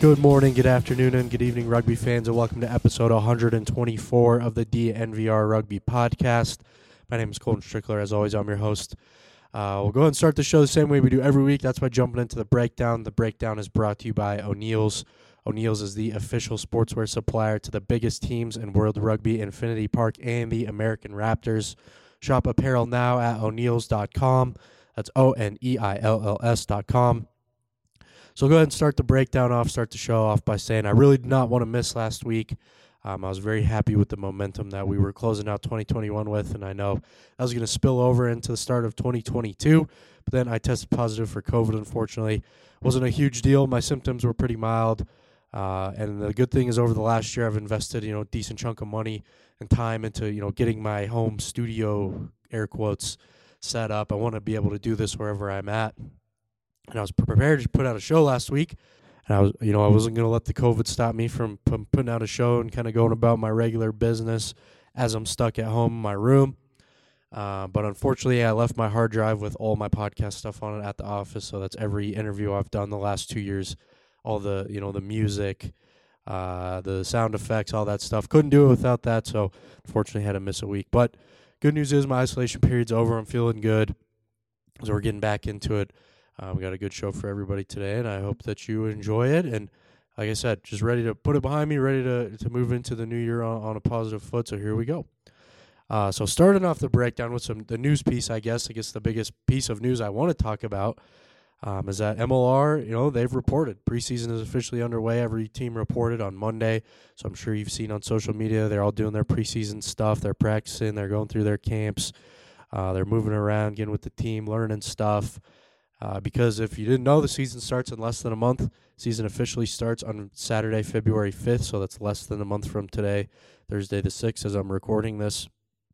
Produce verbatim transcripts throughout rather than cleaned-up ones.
Good morning, good afternoon, and good evening, rugby fans, and welcome to episode one hundred twenty-four of the D N V R Rugby Podcast. My name is Colton Strickler. As always, I'm your host. Uh, we'll go ahead and start the show the same way we do every week. That's by jumping into the breakdown. The breakdown is brought to you by O'Neill's. O'Neill's is the official sportswear supplier to the biggest teams in World Rugby, Infinity Park, and the American Raptors. Shop apparel now at o'neills dot com. That's O N E I L L S dot com. So go ahead and start the breakdown off, start the show off by saying I really did not want to miss last week. Um, I was very happy with the momentum that we were closing out twenty twenty-one with, and I know that was going to spill over into the start of twenty twenty-two, but then I tested positive for COVID, unfortunately. It wasn't a huge deal. My symptoms were pretty mild, uh, and the good thing is over the last year I've invested, you know, a decent chunk of money and time into, you know, getting my home studio, air quotes, set up. I want to be able to do this wherever I'm at. And I was prepared to put out a show last week, and I was, you know, I wasn't going to let the COVID stop me from, from putting out a show and kind of going about my regular business as I'm stuck at home in my room. Uh, but unfortunately, I left my hard drive with all my podcast stuff on it at the office. So that's every interview I've done the last two years, all the, you know, the music, uh, the sound effects, all that stuff. Couldn't do it without that. So unfortunately, had to miss a week. But good news is my isolation period's over. I'm feeling good. So we're getting back into it. Uh, we got a good show for everybody today, and I hope that you enjoy it. And like I said, just ready to put it behind me, ready to, to move into the new year on, on a positive foot. So here we go. Uh, so starting off the breakdown with some the news piece, I guess. I guess the biggest piece of news I want to talk about um, is that M L R, you know, they've reported. Preseason is officially underway. Every team reported on Monday. So I'm sure you've seen on social media, they're all doing their preseason stuff. They're practicing. They're going through their camps. Uh, they're moving around, getting with the team, learning stuff. Uh, because if you didn't know, the season starts in less than a month. Season officially starts on Saturday, February fifth, so that's less than a month from today, Thursday the sixth, as I'm recording this.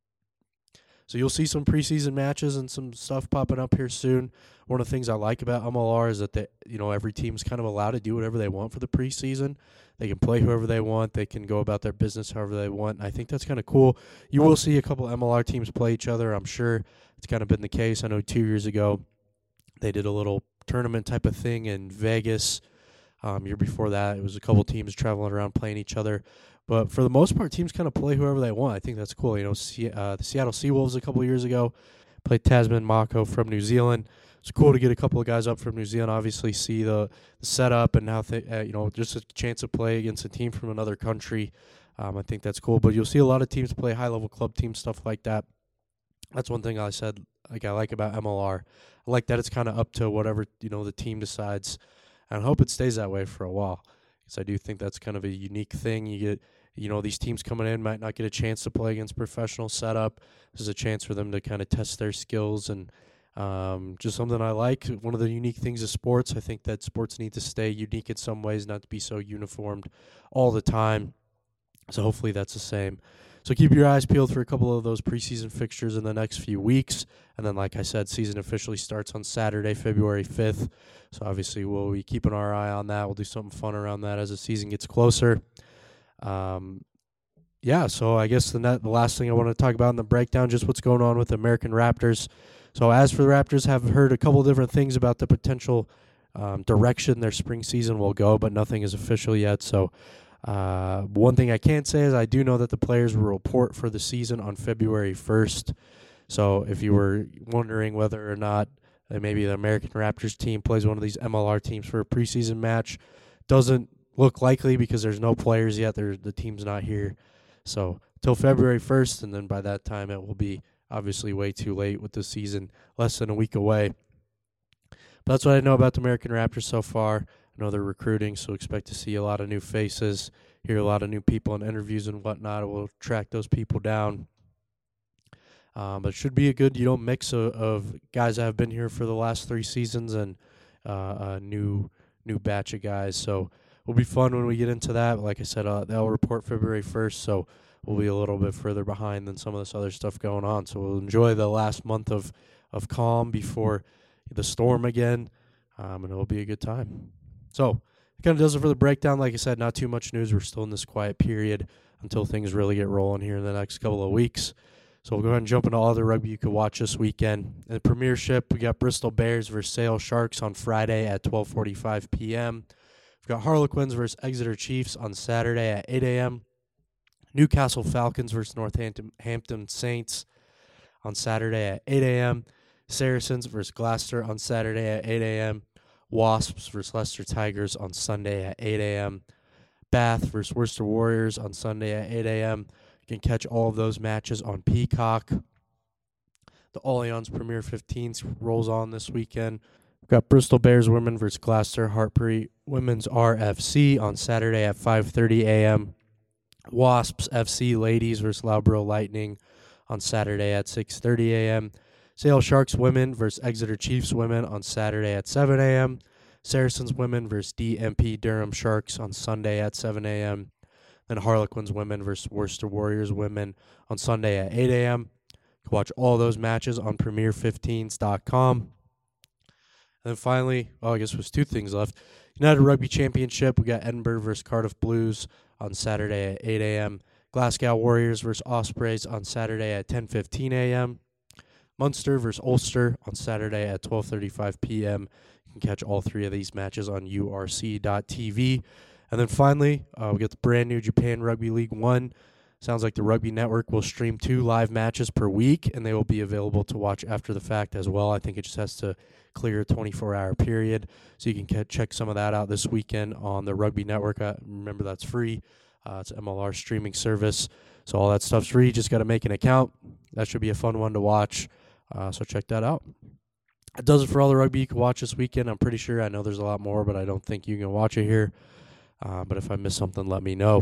So you'll see some preseason matches and some stuff popping up here soon. One of the things I like about M L R is that they, you know, every team's kind of allowed to do whatever they want for the preseason. They can play whoever they want. They can go about their business however they want. And I think that's kind of cool. You will see a couple M L R teams play each other. I'm sure it's kind of been the case. I know two years ago, they did a little tournament type of thing in Vegas. Um, year before that, it was a couple teams traveling around playing each other. But for the most part, teams kind of play whoever they want. I think that's cool. You know, C- uh, the Seattle Seawolves a couple years ago played Tasman Mako from New Zealand. It's cool to get a couple of guys up from New Zealand, obviously see the, the setup and how, th- uh, you know, just a chance to play against a team from another country. Um, I think that's cool. But you'll see a lot of teams play high-level club team stuff like that. That's one thing I said, like I like about M L R. I like that it's kind of up to whatever, you know, the team decides. And I hope it stays that way for a while, because I do think that's kind of a unique thing. You get, you know, these teams coming in might not get a chance to play against professional setup. This is a chance for them to kind of test their skills, and um, just something I like. One of the unique things of sports, I think that sports need to stay unique in some ways, not to be so uniformed all the time. So hopefully that's the same. So keep your eyes peeled for a couple of those preseason fixtures in the next few weeks. And then, like I said, season officially starts on Saturday, February fifth. So obviously we'll be keeping our eye on that. We'll do something fun around that as the season gets closer. Um, yeah, so I guess the, net, the last thing I want to talk about in the breakdown, just what's going on with the American Raptors. So as for the Raptors, have heard a couple different things about the potential um, direction their spring season will go, but nothing is official yet. So Uh, one thing I can say is I do know that the players will report for the season on February first. So if you were wondering whether or not uh, maybe the American Raptors team plays one of these M L R teams for a preseason match, doesn't look likely because there's no players yet. There's, the team's not here. So till February first, and then by that time it will be obviously way too late with the season less than a week away. But that's what I know about the American Raptors so far. I know they're recruiting, so expect to see a lot of new faces, hear a lot of new people in interviews and whatnot. We'll track those people down. Um, but it should be a good, you know, mix of, of guys that have been here for the last three seasons and uh, a new new batch of guys. So it'll be fun when we get into that. Like I said, uh, they'll report February first, so we'll be a little bit further behind than some of this other stuff going on. So we'll enjoy the last month of, of calm before the storm again, um, and it'll be a good time. So it kind of does it for the breakdown. Like I said, not too much news. We're still in this quiet period until things really get rolling here in the next couple of weeks. So we'll go ahead and jump into all the rugby you could watch this weekend. In the Premiership, we got Bristol Bears versus Sale Sharks on Friday at twelve forty-five p.m. We've got Harlequins versus Exeter Chiefs on Saturday at eight a.m. Newcastle Falcons versus Northampton Hampton Saints on Saturday at eight a.m. Saracens versus Gloucester on Saturday at eight a.m. Wasps versus Leicester Tigers on Sunday at eight a.m. Bath versus Worcester Warriors on Sunday at eight a.m. You can catch all of those matches on Peacock. The Allianz Premier fifteen rolls on this weekend. We've got Bristol Bears women versus Gloucester Hartpury Women's R F C on Saturday at five thirty a.m. Wasps F C ladies versus Loughborough Lightning on Saturday at six thirty a.m. Sale Sharks women versus Exeter Chiefs women on Saturday at seven a.m. Saracens women versus D M P Durham Sharks on Sunday at seven a.m. Then Harlequins women versus Worcester Warriors women on Sunday at eight a.m. You can watch all those matches on premier fifteens dot com. And then finally, oh, I guess there's two things left. United Rugby Championship, we got Edinburgh versus Cardiff Blues on Saturday at eight a.m. Glasgow Warriors versus Ospreys on Saturday at ten fifteen a.m. Munster versus Ulster on Saturday at twelve thirty-five p.m. You can catch all three of these matches on U R C dot T V. And then finally, uh, we got the brand new Japan Rugby League One. Sounds like the Rugby Network will stream two live matches per week, and they will be available to watch after the fact as well. I think it just has to clear a twenty-four hour period, so you can catch, check some of that out this weekend on the Rugby Network. Uh, remember, that's free. Uh, it's an M L R streaming service, so all that stuff's free. Just got to make an account. That should be a fun one to watch. Uh, so check that out. That does it for all the rugby you can watch this weekend. I'm pretty sure. I know there's a lot more, but I don't think you can watch it here. Uh, but if I miss something, let me know.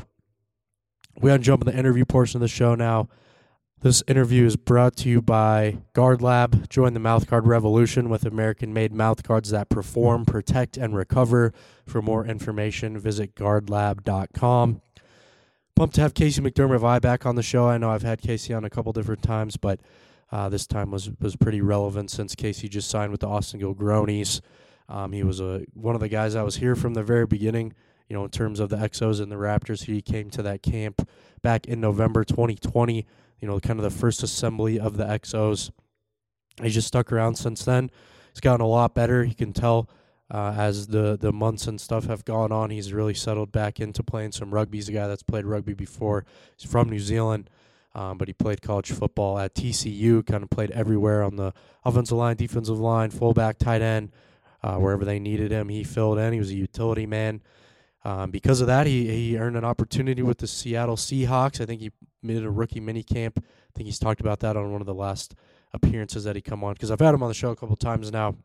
We got to jump in the interview portion of the show now. This interview is brought to you by Guard Lab. Join the mouthguard revolution with American-made mouthguards that perform, protect, and recover. For more information, visit guard lab dot com. Pumped to have Casey McDermott-Vie back on the show. I know I've had Casey on a couple different times, but Uh, this time was was pretty relevant since Casey just signed with the Austin Gilgronis. Um, he was a one of the guys that was here from the very beginning, you know, in terms of the Exos and the Raptors. He came to that camp back in November twenty twenty, you know, kind of the first assembly of the Exos. He's just stuck around since then. He's gotten a lot better. You can tell uh, as the, the months and stuff have gone on, he's really settled back into playing some rugby. He's a guy that's played rugby before. He's from New Zealand. Um, but he played college football at T C U, kind of played everywhere on the offensive line, defensive line, fullback, tight end, uh, wherever they needed him. He filled in. He was a utility man. Um, because of that, he he earned an opportunity with the Seattle Seahawks. I think he made a rookie mini camp. I think he's talked about that on one of the last appearances that he come on, because I've had him on the show a couple times now.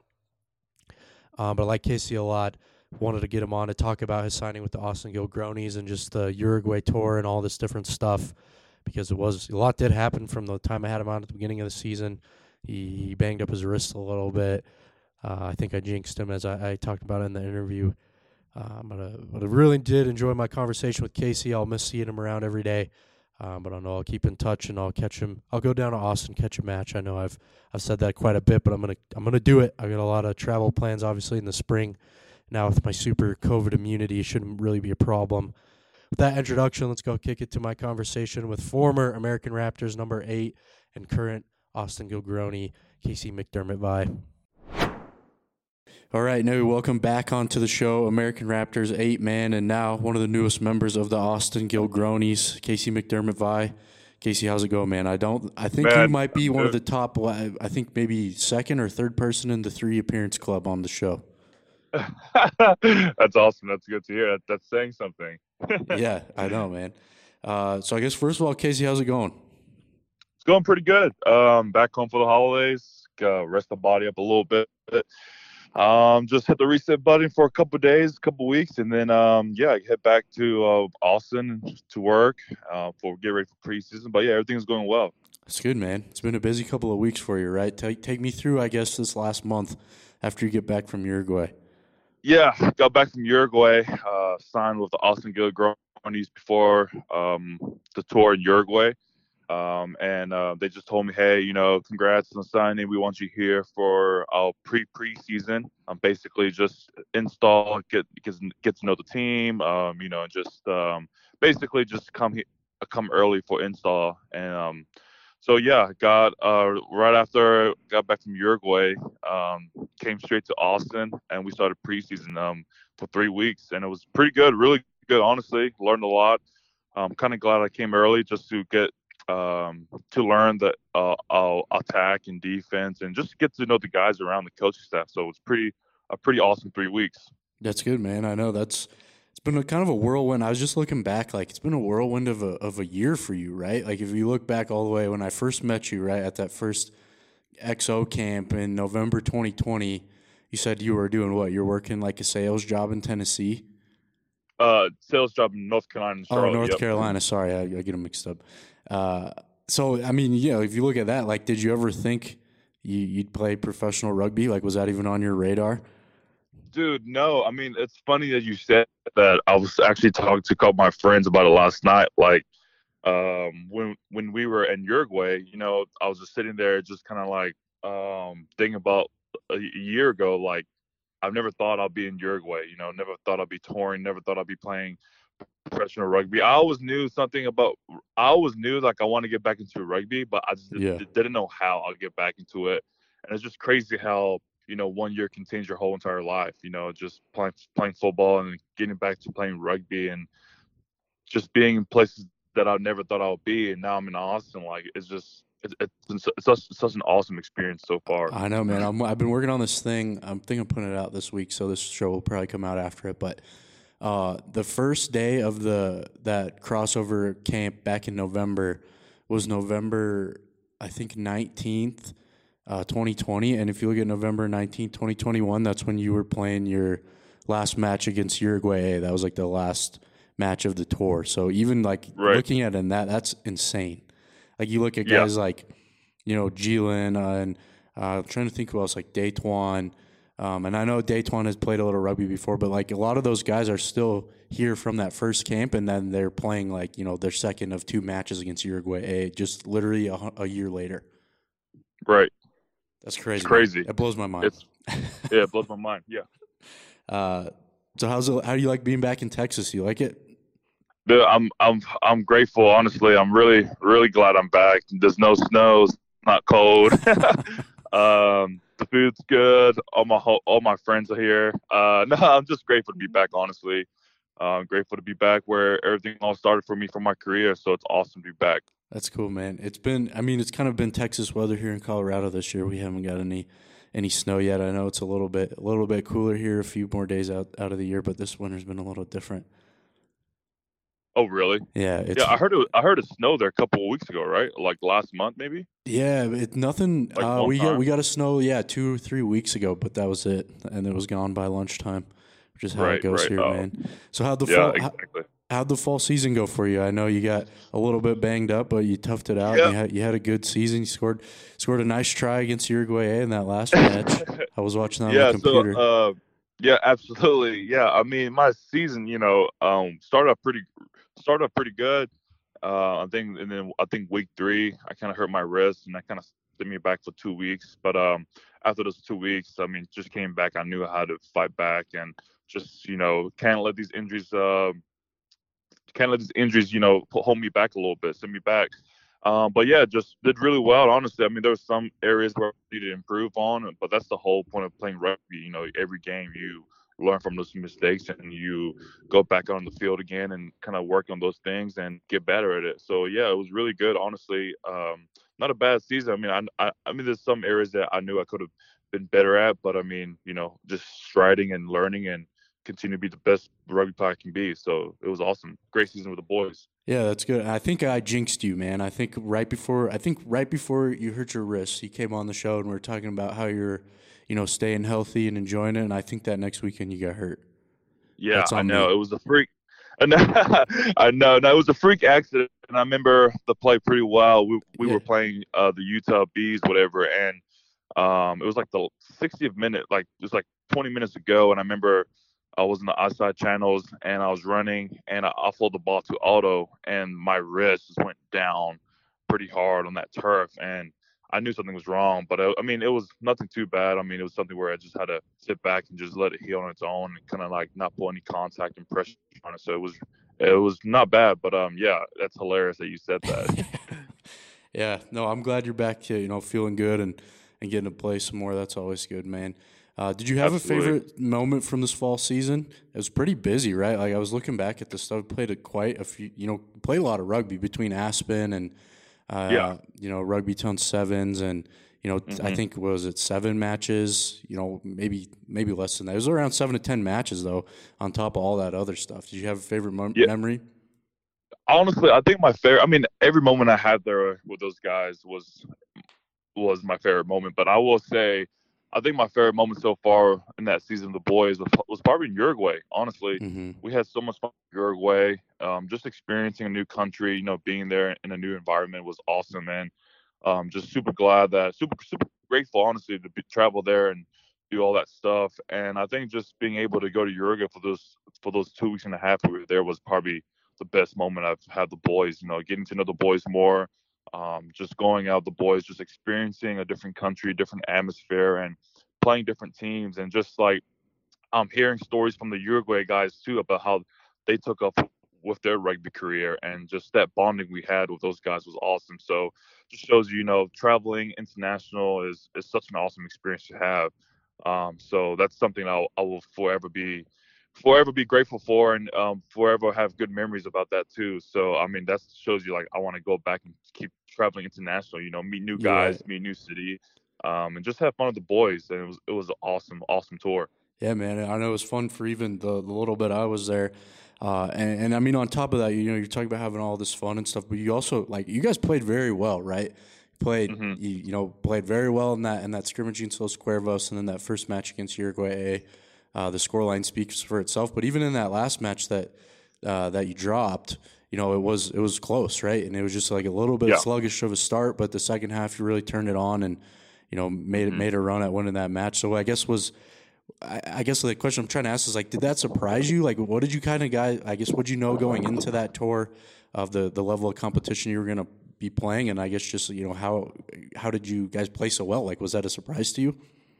Um, but I like Casey a lot. Wanted to get him on to talk about his signing with the Austin Gilgronis and just the Uruguay tour and all this different stuff. Because it was a lot did happen from the time I had him on at the beginning of the season. He, he banged up his wrist a little bit. Uh, I think I jinxed him, as I, I talked about in the interview. Um, but, uh, but I really did enjoy my conversation with Casey. I'll miss seeing him around every day. Um, but I know I'll keep in touch and I'll catch him. I'll go down to Austin, catch a match. I know I've I've said that quite a bit, but I'm gonna I'm gonna do it. I got a lot of travel plans, obviously, in the spring. Now with my super COVID immunity, it shouldn't really be a problem. With that introduction, let's go kick it to my conversation with former American Raptors number eight and current Austin Gilgroni, Casey McDermott-Vie. All right, now welcome back onto the show, American Raptors eight man, and now one of the newest members of the Austin Gilgronis, Casey McDermott-Vie. Casey, how's it going, man? I don't. I think man, you might be one of the top. I think maybe second or third person in the three appearance club on the show. That's awesome. That's good to hear. That, that's saying something. Yeah, I know, man. Uh, so I guess first of all, Casey, how's it going? It's going pretty good. Um, back home for the holidays. Uh, rest the body up a little bit. Um, just hit the reset button for a couple of days, a couple of weeks, and then um, yeah, head back to uh, Austin to work uh, for get ready for preseason. But yeah, everything's going well. That's good, man. It's been a busy couple of weeks for you, right? Take take me through, I guess, this last month after you get back from Uruguay. Yeah, got back from Uruguay, uh, signed with the Austin Gilgronis before um, the tour in Uruguay. Um, and uh, they just told me, hey, you know, congrats on signing. We want you here for our pre-preseason. Um, basically just install, get get, get to know the team, um, you know, and just um, basically just come he- come early for install. And um, so, yeah, got uh, right after got back from Uruguay, um, came straight to Austin, and we started preseason. Um, for three weeks, and it was pretty good, really good. Honestly, learned a lot. I'm kind of glad I came early just to get um, to learn the uh, uh, attack and defense, and just get to know the guys around the coaching staff. So it's pretty a pretty awesome three weeks. That's good, man. I know that's it's been a kind of a whirlwind. I was just looking back, like it's been a whirlwind of a of a year for you, right? Like if you look back all the way when I first met you, right, at that first X O camp in November twenty twenty, you said you were doing what? You're working like a sales job in Tennessee? Uh, sales job in North Carolina and Charlotte. Oh, North yep. Carolina. Sorry, I, I get them mixed up. Uh, so, I mean, you know, if you look at that, like, did you ever think you, you'd play professional rugby? Like, was that even on your radar? Dude, no. I mean, it's funny that you said that. I was actually talking to a couple of my friends about it last night. Like, um, when when we were in Uruguay, you know, I was just sitting there, just kind of like um, thinking about a year ago. Like, I've never thought I'd be in Uruguay. You know, never thought I'd be touring. Never thought I'd be playing professional rugby. I always knew something about. I always knew like I want to get back into rugby, but I just Yeah. did, didn't know how I'll get back into it. And it's just crazy how you know one year can change your whole entire life. You know, just playing playing football and getting back to playing rugby and just being in places that I never thought I would be. And now I'm in Austin. Like it's just. It's, it's, it's, such, it's such an awesome experience so far. I know, man. I'm, I've been working on this thing. I'm thinking of putting it out this week, so this show will probably come out after it. But uh, the first day of the that crossover camp back in November was November, I think, nineteenth, uh, twenty twenty. And if you look at November nineteenth, twenty twenty-one, that's when you were playing your last match against Uruguay. That was like the last match of the tour. So even like Right. looking at it in that, that's insane. Like you look at Yeah. guys like, you know, Gielan uh, and uh, I'm trying to think who else, like Daytwan. Um, and I know Daytwan has played a little rugby before, but like a lot of those guys are still here from that first camp, and then they're playing like, you know, their second of two matches against Uruguay A, just literally a, a year later. Right. That's crazy. It's crazy. Man. It blows my mind. It's, yeah, it blows my mind. Yeah. Uh, so how's it, how do you like being back in Texas? You like it? Dude, I'm I'm I'm grateful. Honestly, I'm really really glad I'm back. There's no snow. It's not cold. um, the food's good. All my ho- all my friends are here. Uh, no, I'm just grateful to be back. Honestly, uh, I'm grateful to be back where everything all started for me for my career. So it's awesome to be back. That's cool, man. It's been, I mean, it's kind of been Texas weather here in Colorado this year. We haven't got any any snow yet. I know it's a little bit a little bit cooler here, a few more days out, out of the year, but this winter's been a little different. Oh, really? Yeah, it's, Yeah, I heard it. I heard it snowed there a couple of weeks ago, right? Like last month, maybe. yeah, it nothing. Like uh, one we got time? we got a snow, yeah, two or three weeks ago, but that was it, and it was gone by lunchtime, which is how it Right, goes right. here, Oh. man. So how'd the Yeah, fall how, exactly. how'd the fall season go for you? I know you got a little bit banged up, but you toughed it out. Yeah. You had you had a good season. You scored scored a nice try against Uruguay A in that last match. I was watching that yeah. on the computer. So, uh, yeah, absolutely. Yeah, I mean, my season, you know, um, started off pretty, started off pretty good. Uh, I think, and then I think week three, I kind of hurt my wrist, and that kind of sent me back for two weeks. But um, after those two weeks, I mean, just came back. I knew how to fight back, and just you know, can't let these injuries, uh, can't let these injuries, you know, pu- hold me back a little bit, send me back. Um, but yeah, just did really well. Honestly, I mean, there were some areas where I needed to improve on, but that's the whole point of playing rugby. You know, every game you learn from those mistakes and you go back on the field again and kind of work on those things and get better at it. So yeah, it was really good. Honestly, um, not a bad season. I mean, I, I, I mean, there's some areas that I knew I could have been better at, but I mean, you know, just striding and learning and continue to be the best rugby player I can be. So it was awesome. Great season with the boys. Yeah, that's good. I think I jinxed you, man. I think right before I think right before you hurt your wrist, you came on the show and we were talking about how you're, you know, staying healthy and enjoying it. And I think that next weekend you got hurt. Yeah, That's I on know. me. It was a freak. I know. I know. No, it was a freak accident. And I remember the play pretty well. We we Yeah. were playing uh, the Utah Bees, whatever, and um, it was like the sixtieth minute, like it was like twenty minutes ago. And I remember I was in the outside channels and I was running and I offloaded the ball to Otto and my wrist just went down pretty hard on that turf. And I knew something was wrong, but I, I mean, it was nothing too bad. I mean, it was something where I just had to sit back and just let it heal on its own and kind of like not put any contact and pressure on it. So it was, it was not bad, but um, yeah, that's hilarious that you said that. Yeah, no, I'm glad you're back to, you know, feeling good and, and getting to play some more. That's always good, man. Uh, did you have Absolutely. a favorite moment from this fall season? It was pretty busy, right? Like I was looking back at the stuff. Played a quite a few. You know, played a lot of rugby between Aspen and Yeah. uh, you know Rugby Town Sevens, and you know t- I hmm think what was it seven matches? You know, maybe maybe less than that. It was around seven to ten matches though. On top of all that other stuff, did you have a favorite mem- Yeah. memory? Honestly, I think my favorite. I mean, every moment I had there with those guys was was my favorite moment. But I will say, I think my favorite moment so far in that season of the boys was, was probably in Uruguay. Honestly, Mm-hmm. we had so much fun in Uruguay. Um, just experiencing a new country, you know, being there in a new environment was awesome, man. Um, just super glad that super super grateful, honestly, to be, travel there and do all that stuff. And I think just being able to go to Uruguay for those for those two weeks and a half we were there was probably the best moment I've had the boys. You know, getting to know the boys more, um, just going out the boys, just experiencing a different country, different atmosphere, and playing different teams, and just like I'm hearing stories from the Uruguay guys too about how they took off with their rugby career, and just that bonding we had with those guys was awesome. So just shows you, you know, traveling international is is such an awesome experience to have. Um, so that's something I'll, I will forever be forever be grateful for, and um, forever have good memories about that too. So I mean that shows you like I want to go back and keep traveling international. You know, meet new You're right. guys, meet new city, um, and just have fun with the boys. And it was it was an awesome awesome tour. Yeah, man. I know it was fun for even the, the little bit I was there. Uh, and, and I mean, on top of that, you know, you're talking about having all this fun and stuff, but you also like you guys played very well, right? Played, hmm you, you know, played very well in that in that scrimmage against Los Cuervos, and then that first match against Uruguay. Uh, the scoreline speaks for itself. But even in that last match that uh, that you dropped, you know, it was it was close, right? And it was just like a little bit Yeah. sluggish of a start, but the second half you really turned it on and you know made it hmm made a run at winning that match. So I guess was I, I guess the question I'm trying to ask is like, did that surprise you? Like, what did you kind of guys? I guess what did you know going into that tour of the the level of competition you were going to be playing, and I guess just you know how how did you guys play so well? Like, was that a surprise to you?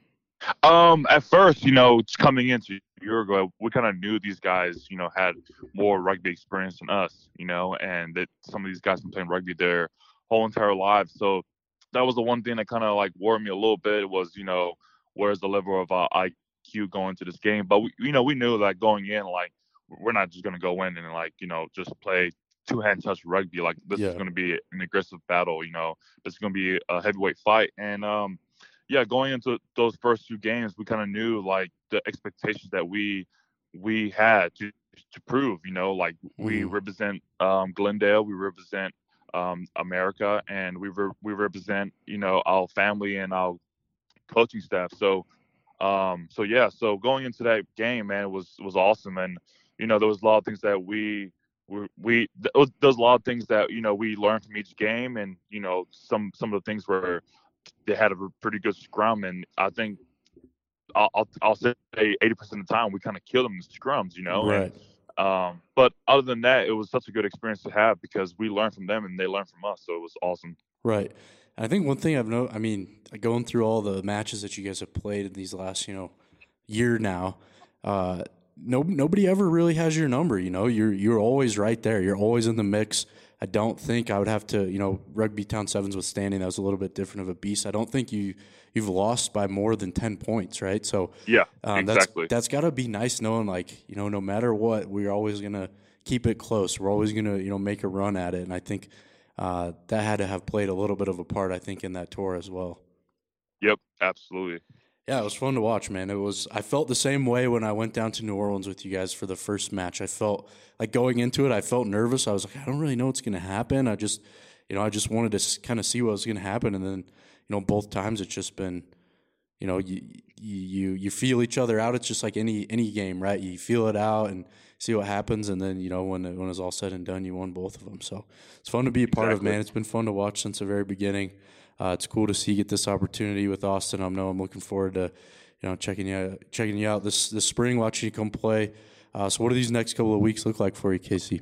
Um, at first, you know, coming into Uruguay, we kind of knew these guys, you know, had more rugby experience than us, you know, and that some of these guys been playing rugby their whole entire lives. So that was the one thing that kind of like worried me a little bit was, you know, where's the level of uh, I Q going to this game? But we, you know, we knew that going in, like, we're not just gonna go in and like, you know, just play two hand touch rugby. Like this is Yeah. gonna be an aggressive battle. You know, this is gonna be a heavyweight fight, and um yeah, going into those first two games, we kind of knew like the expectations that we we had to to prove. You know, like we Mm-hmm. represent um, Glendale, we represent um, America, and we re- we represent you know our family and our coaching staff. So um, so yeah, so going into that game, man, was was awesome, and you know there was a lot of things that we we, we there was, there was a lot of things that you know we learned from each game, and you know some some of the things were they had a pretty good scrum, and I think I'll I'll, I'll say eighty percent of the time we kind of killed them in the scrums, you know. And Right. um, but other than that, it was such a good experience to have because we learned from them and they learned from us, so it was awesome. Right. And I think one thing I've know, I mean, going through all the matches that you guys have played in these last, you know, year now, uh, no, nobody ever really has your number. You know, you're you're always right there. You're always in the mix. I don't think I would have to, you know, Rugby Town Sevens withstanding that was a little bit different of a beast. I don't think you you've lost by more than ten points, right? So Yeah, um, that's exactly. that's got to be nice knowing, like, you know, no matter what, we're always gonna keep it close. We're always gonna, you know, make a run at it. And I think uh, that had to have played a little bit of a part, I think, in that tour as well. Yep, absolutely. Yeah, it was fun to watch, man. It was. I felt the same way when I went down to New Orleans with you guys for the first match. I felt like going into it, I felt nervous. I was like, I don't really know what's going to happen. I just, you know, I just wanted to kind of see what was going to happen, and then, you know, both times it's just been, you know, you you you feel each other out. It's just like any any game, right? You feel it out and see what happens, and then you know when it, when it's all said and done, you won both of them. So it's fun to be a part of, Exactly. man. It's been fun to watch since the very beginning. Uh, it's cool to see you get this opportunity with Austin. I know I'm looking forward to, you know, checking you checking you out this this spring, watching you come play. Uh, so what do these next couple of weeks look like for you, Casey?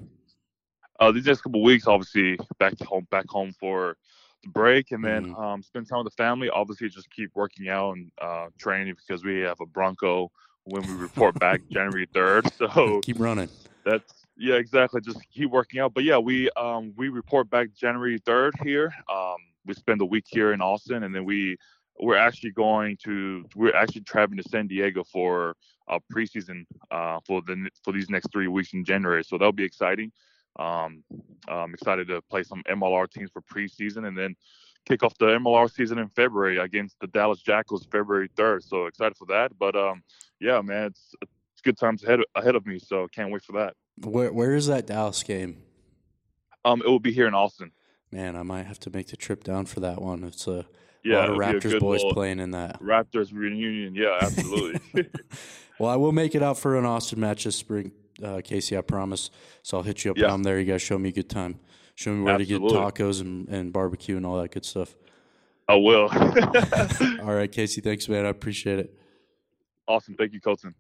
Uh, these next couple of weeks, obviously, back to home, back home for the break, and then Mm-hmm. um, spend time with the family. Obviously, just keep working out and uh, training because we have a Bronco when we report back January third. So Keep running. that's yeah, exactly. Just keep working out. But yeah, we um we report back January third here. Um, we spend a week here in Austin, and then we we're actually going to we're actually traveling to San Diego for a preseason uh, for the for these next three weeks in January. So that'll be exciting. Um, I'm excited to play some M L R teams for preseason, and then kick off the M L R season in February against the Dallas Jackals, February third. So excited for that. But um, yeah, man, it's it's good times ahead ahead of me. So can't wait for that. Where Where is that Dallas game? Um, it will be here in Austin. Man, I might have to make the trip down for that one. It's a Yeah, lot of it'll be a Raptors good boys little playing in that. Raptors reunion. Yeah, absolutely. Well, I will make it out for an Austin match this spring, uh, Casey, I promise. So I'll hit you up Yeah. down there. You guys show me a good time. Show me where Absolutely. to get tacos and, and barbecue and all that good stuff. I will. All right, Casey, thanks, man. I appreciate it. Awesome. Thank you, Colton.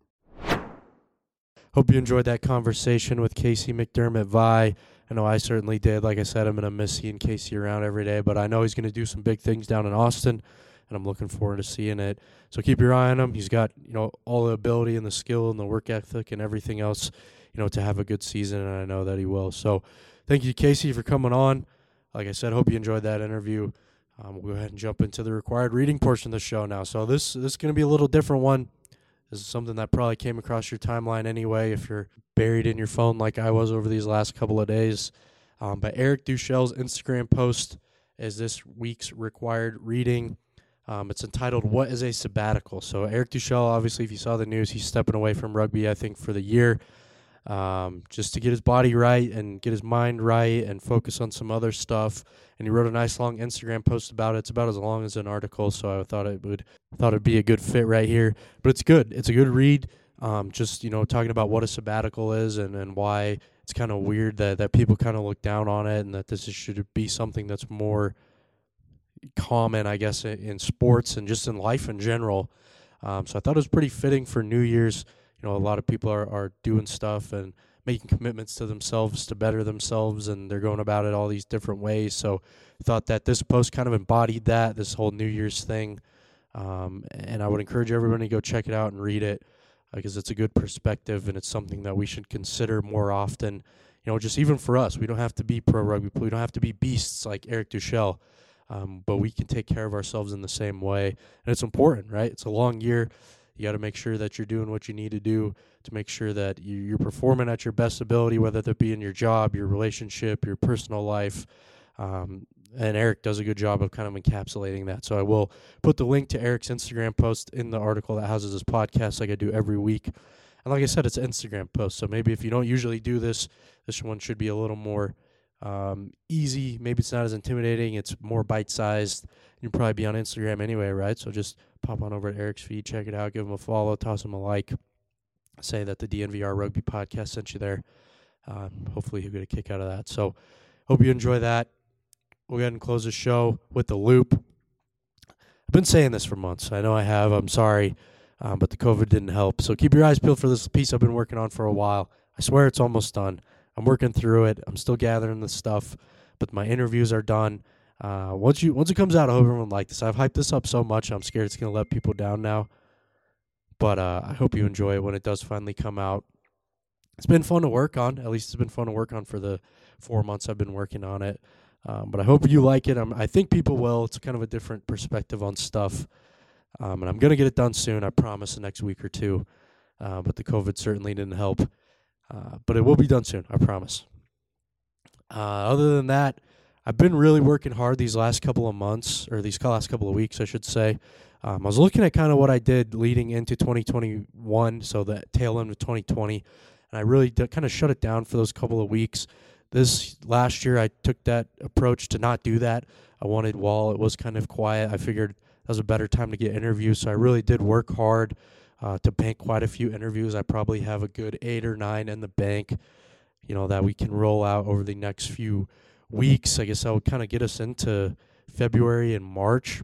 Hope you enjoyed that conversation with Casey McDermott Vi. I know I certainly did. Like I said, I'm going to miss seeing Casey around every day, but I know he's going to do some big things down in Austin, and I'm looking forward to seeing it. So keep your eye on him. He's got, you know, all the ability and the skill and the work ethic and everything else, you know, to have a good season, and I know that he will. So thank you, Casey, for coming on. Like I said, hope you enjoyed that interview. Um, we'll go ahead and jump into the required reading portion of the show now. So this, this is going to be a little different one. This is something that probably came across your timeline anyway if you're buried in your phone like I was over these last couple of days. Um, but Eric Duchel's Instagram post is this week's required reading. Um, it's entitled, What is a Sabbatical? So Eric Duchel, obviously, if you saw the news, he's stepping away from rugby, I think, for the year, um, just to get his body right and get his mind right and focus on some other stuff. And he wrote a nice long Instagram post about it. It's about as long as an article, so I thought it would thought it'd be a good fit right here. But it's good. It's a good read. Um, just, you know, talking about what a sabbatical is and, and why it's kind of weird that, that people kind of look down on it and that this is, should be something that's more common, I guess, in, in sports and just in life in general. Um, so I thought it was pretty fitting for New Year's. You know, a lot of people are, are doing stuff and making commitments to themselves to better themselves, and they're going about it all these different ways. So I thought that this post kind of embodied that, this whole New Year's thing. Um, and I would encourage everyone to go check it out and read it because uh, it's a good perspective and it's something that we should consider more often. You know, just even for us, we don't have to be pro rugby. We don't have to be beasts like Eric Duchel, um, but we can take care of ourselves in the same way. And it's important, right? It's a long year. You got to make sure that you're doing what you need to do to make sure that you're performing at your best ability, whether that be in your job, your relationship, your personal life. Um, and Eric does a good job of kind of encapsulating that. So I will put the link to Eric's Instagram post in the article that houses his podcast like I do every week. And like I said, it's an Instagram post. So maybe if you don't usually do this, this one should be a little more um, easy. Maybe it's not as intimidating. It's more bite-sized. You'll probably be on Instagram anyway, right? So just pop on over to Eric's feed, check it out, give him a follow, toss him a like, say that the D N V R Rugby Podcast sent you there. Um, hopefully you'll get a kick out of that. So hope you enjoy that. We'll go ahead and close the show with the loop. I've been saying this for months. I know I have. I'm sorry, um, but the COVID didn't help. So keep your eyes peeled for this piece I've been working on for a while. I swear it's almost done. I'm working through it. I'm still gathering the stuff, but my interviews are done. Uh, once you once it comes out, I hope everyone likes this. I've hyped this up so much, I'm scared it's going to let people down now. But uh, I hope you enjoy it when it does finally come out. It's been fun to work on. At least it's been fun to work on for the four months I've been working on it. Um, but I hope you like it. I'm, I think people will. It's kind of a different perspective on stuff. Um, and I'm going to get it done soon, I promise, the next week or two. Uh, but the COVID certainly didn't help. Uh, but it will be done soon, I promise. Uh, other than that, I've been really working hard these last couple of months, or these last couple of weeks, I should say. Um, I was looking at kind of what I did leading into twenty twenty-one, so the tail end of twenty twenty, and I really did kind of shut it down for those couple of weeks. This last year, I took that approach to not do that. I wanted, while it was kind of quiet, I figured that was a better time to get interviews, so I really did work hard uh, to bank quite a few interviews. I probably have a good eight or nine in the bank, you know, that we can roll out over the next few weeks. I guess that would kind of get us into February and March.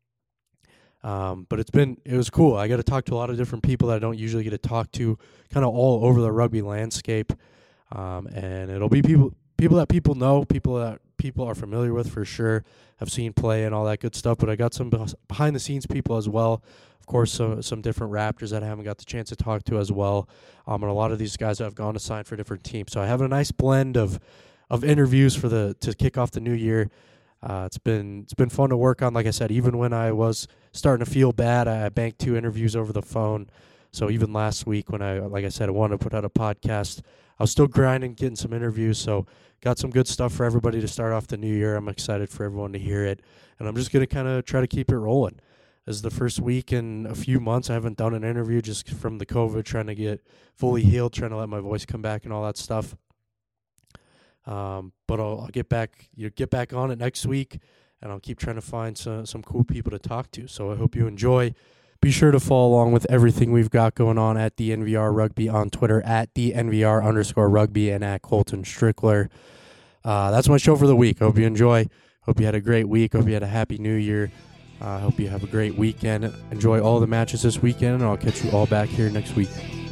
Um, but it's been, it was cool. I got to talk to a lot of different people that I don't usually get to talk to, kind of all over the rugby landscape. Um, and it'll be people, people that people know, people that people are familiar with for sure, have seen play and all that good stuff. But I got some behind the scenes people as well. Of course, some, some different Raptors that I haven't got the chance to talk to as well. Um, and a lot of these guys have gone to sign for different teams. So I have a nice blend of, of interviews for the, to kick off the new year. Uh, it's been it's been fun to work on. Like I said, even when I was starting to feel bad, I banked two interviews over the phone. So even last week when I, like I said, I wanted to put out a podcast, I was still grinding, getting some interviews. So got some good stuff for everybody to start off the new year. I'm excited for everyone to hear it. And I'm just going to kind of try to keep it rolling. This is the first week in a few months I haven't done an interview just from the COVID, trying to get fully healed, trying to let my voice come back and all that stuff. Um, but I'll, I'll get back, you know, get back on it next week, and I'll keep trying to find some some cool people to talk to. So I hope you enjoy. Be sure to follow along with everything we've got going on at the N V R Rugby on Twitter, at the N V R underscore rugby, and at Colton Strickler. Uh, that's my show for the week. Hope you enjoy. Hope you had a great week. Hope you had a happy new year. I uh, hope you have a great weekend. Enjoy all the matches this weekend, and I'll catch you all back here next week.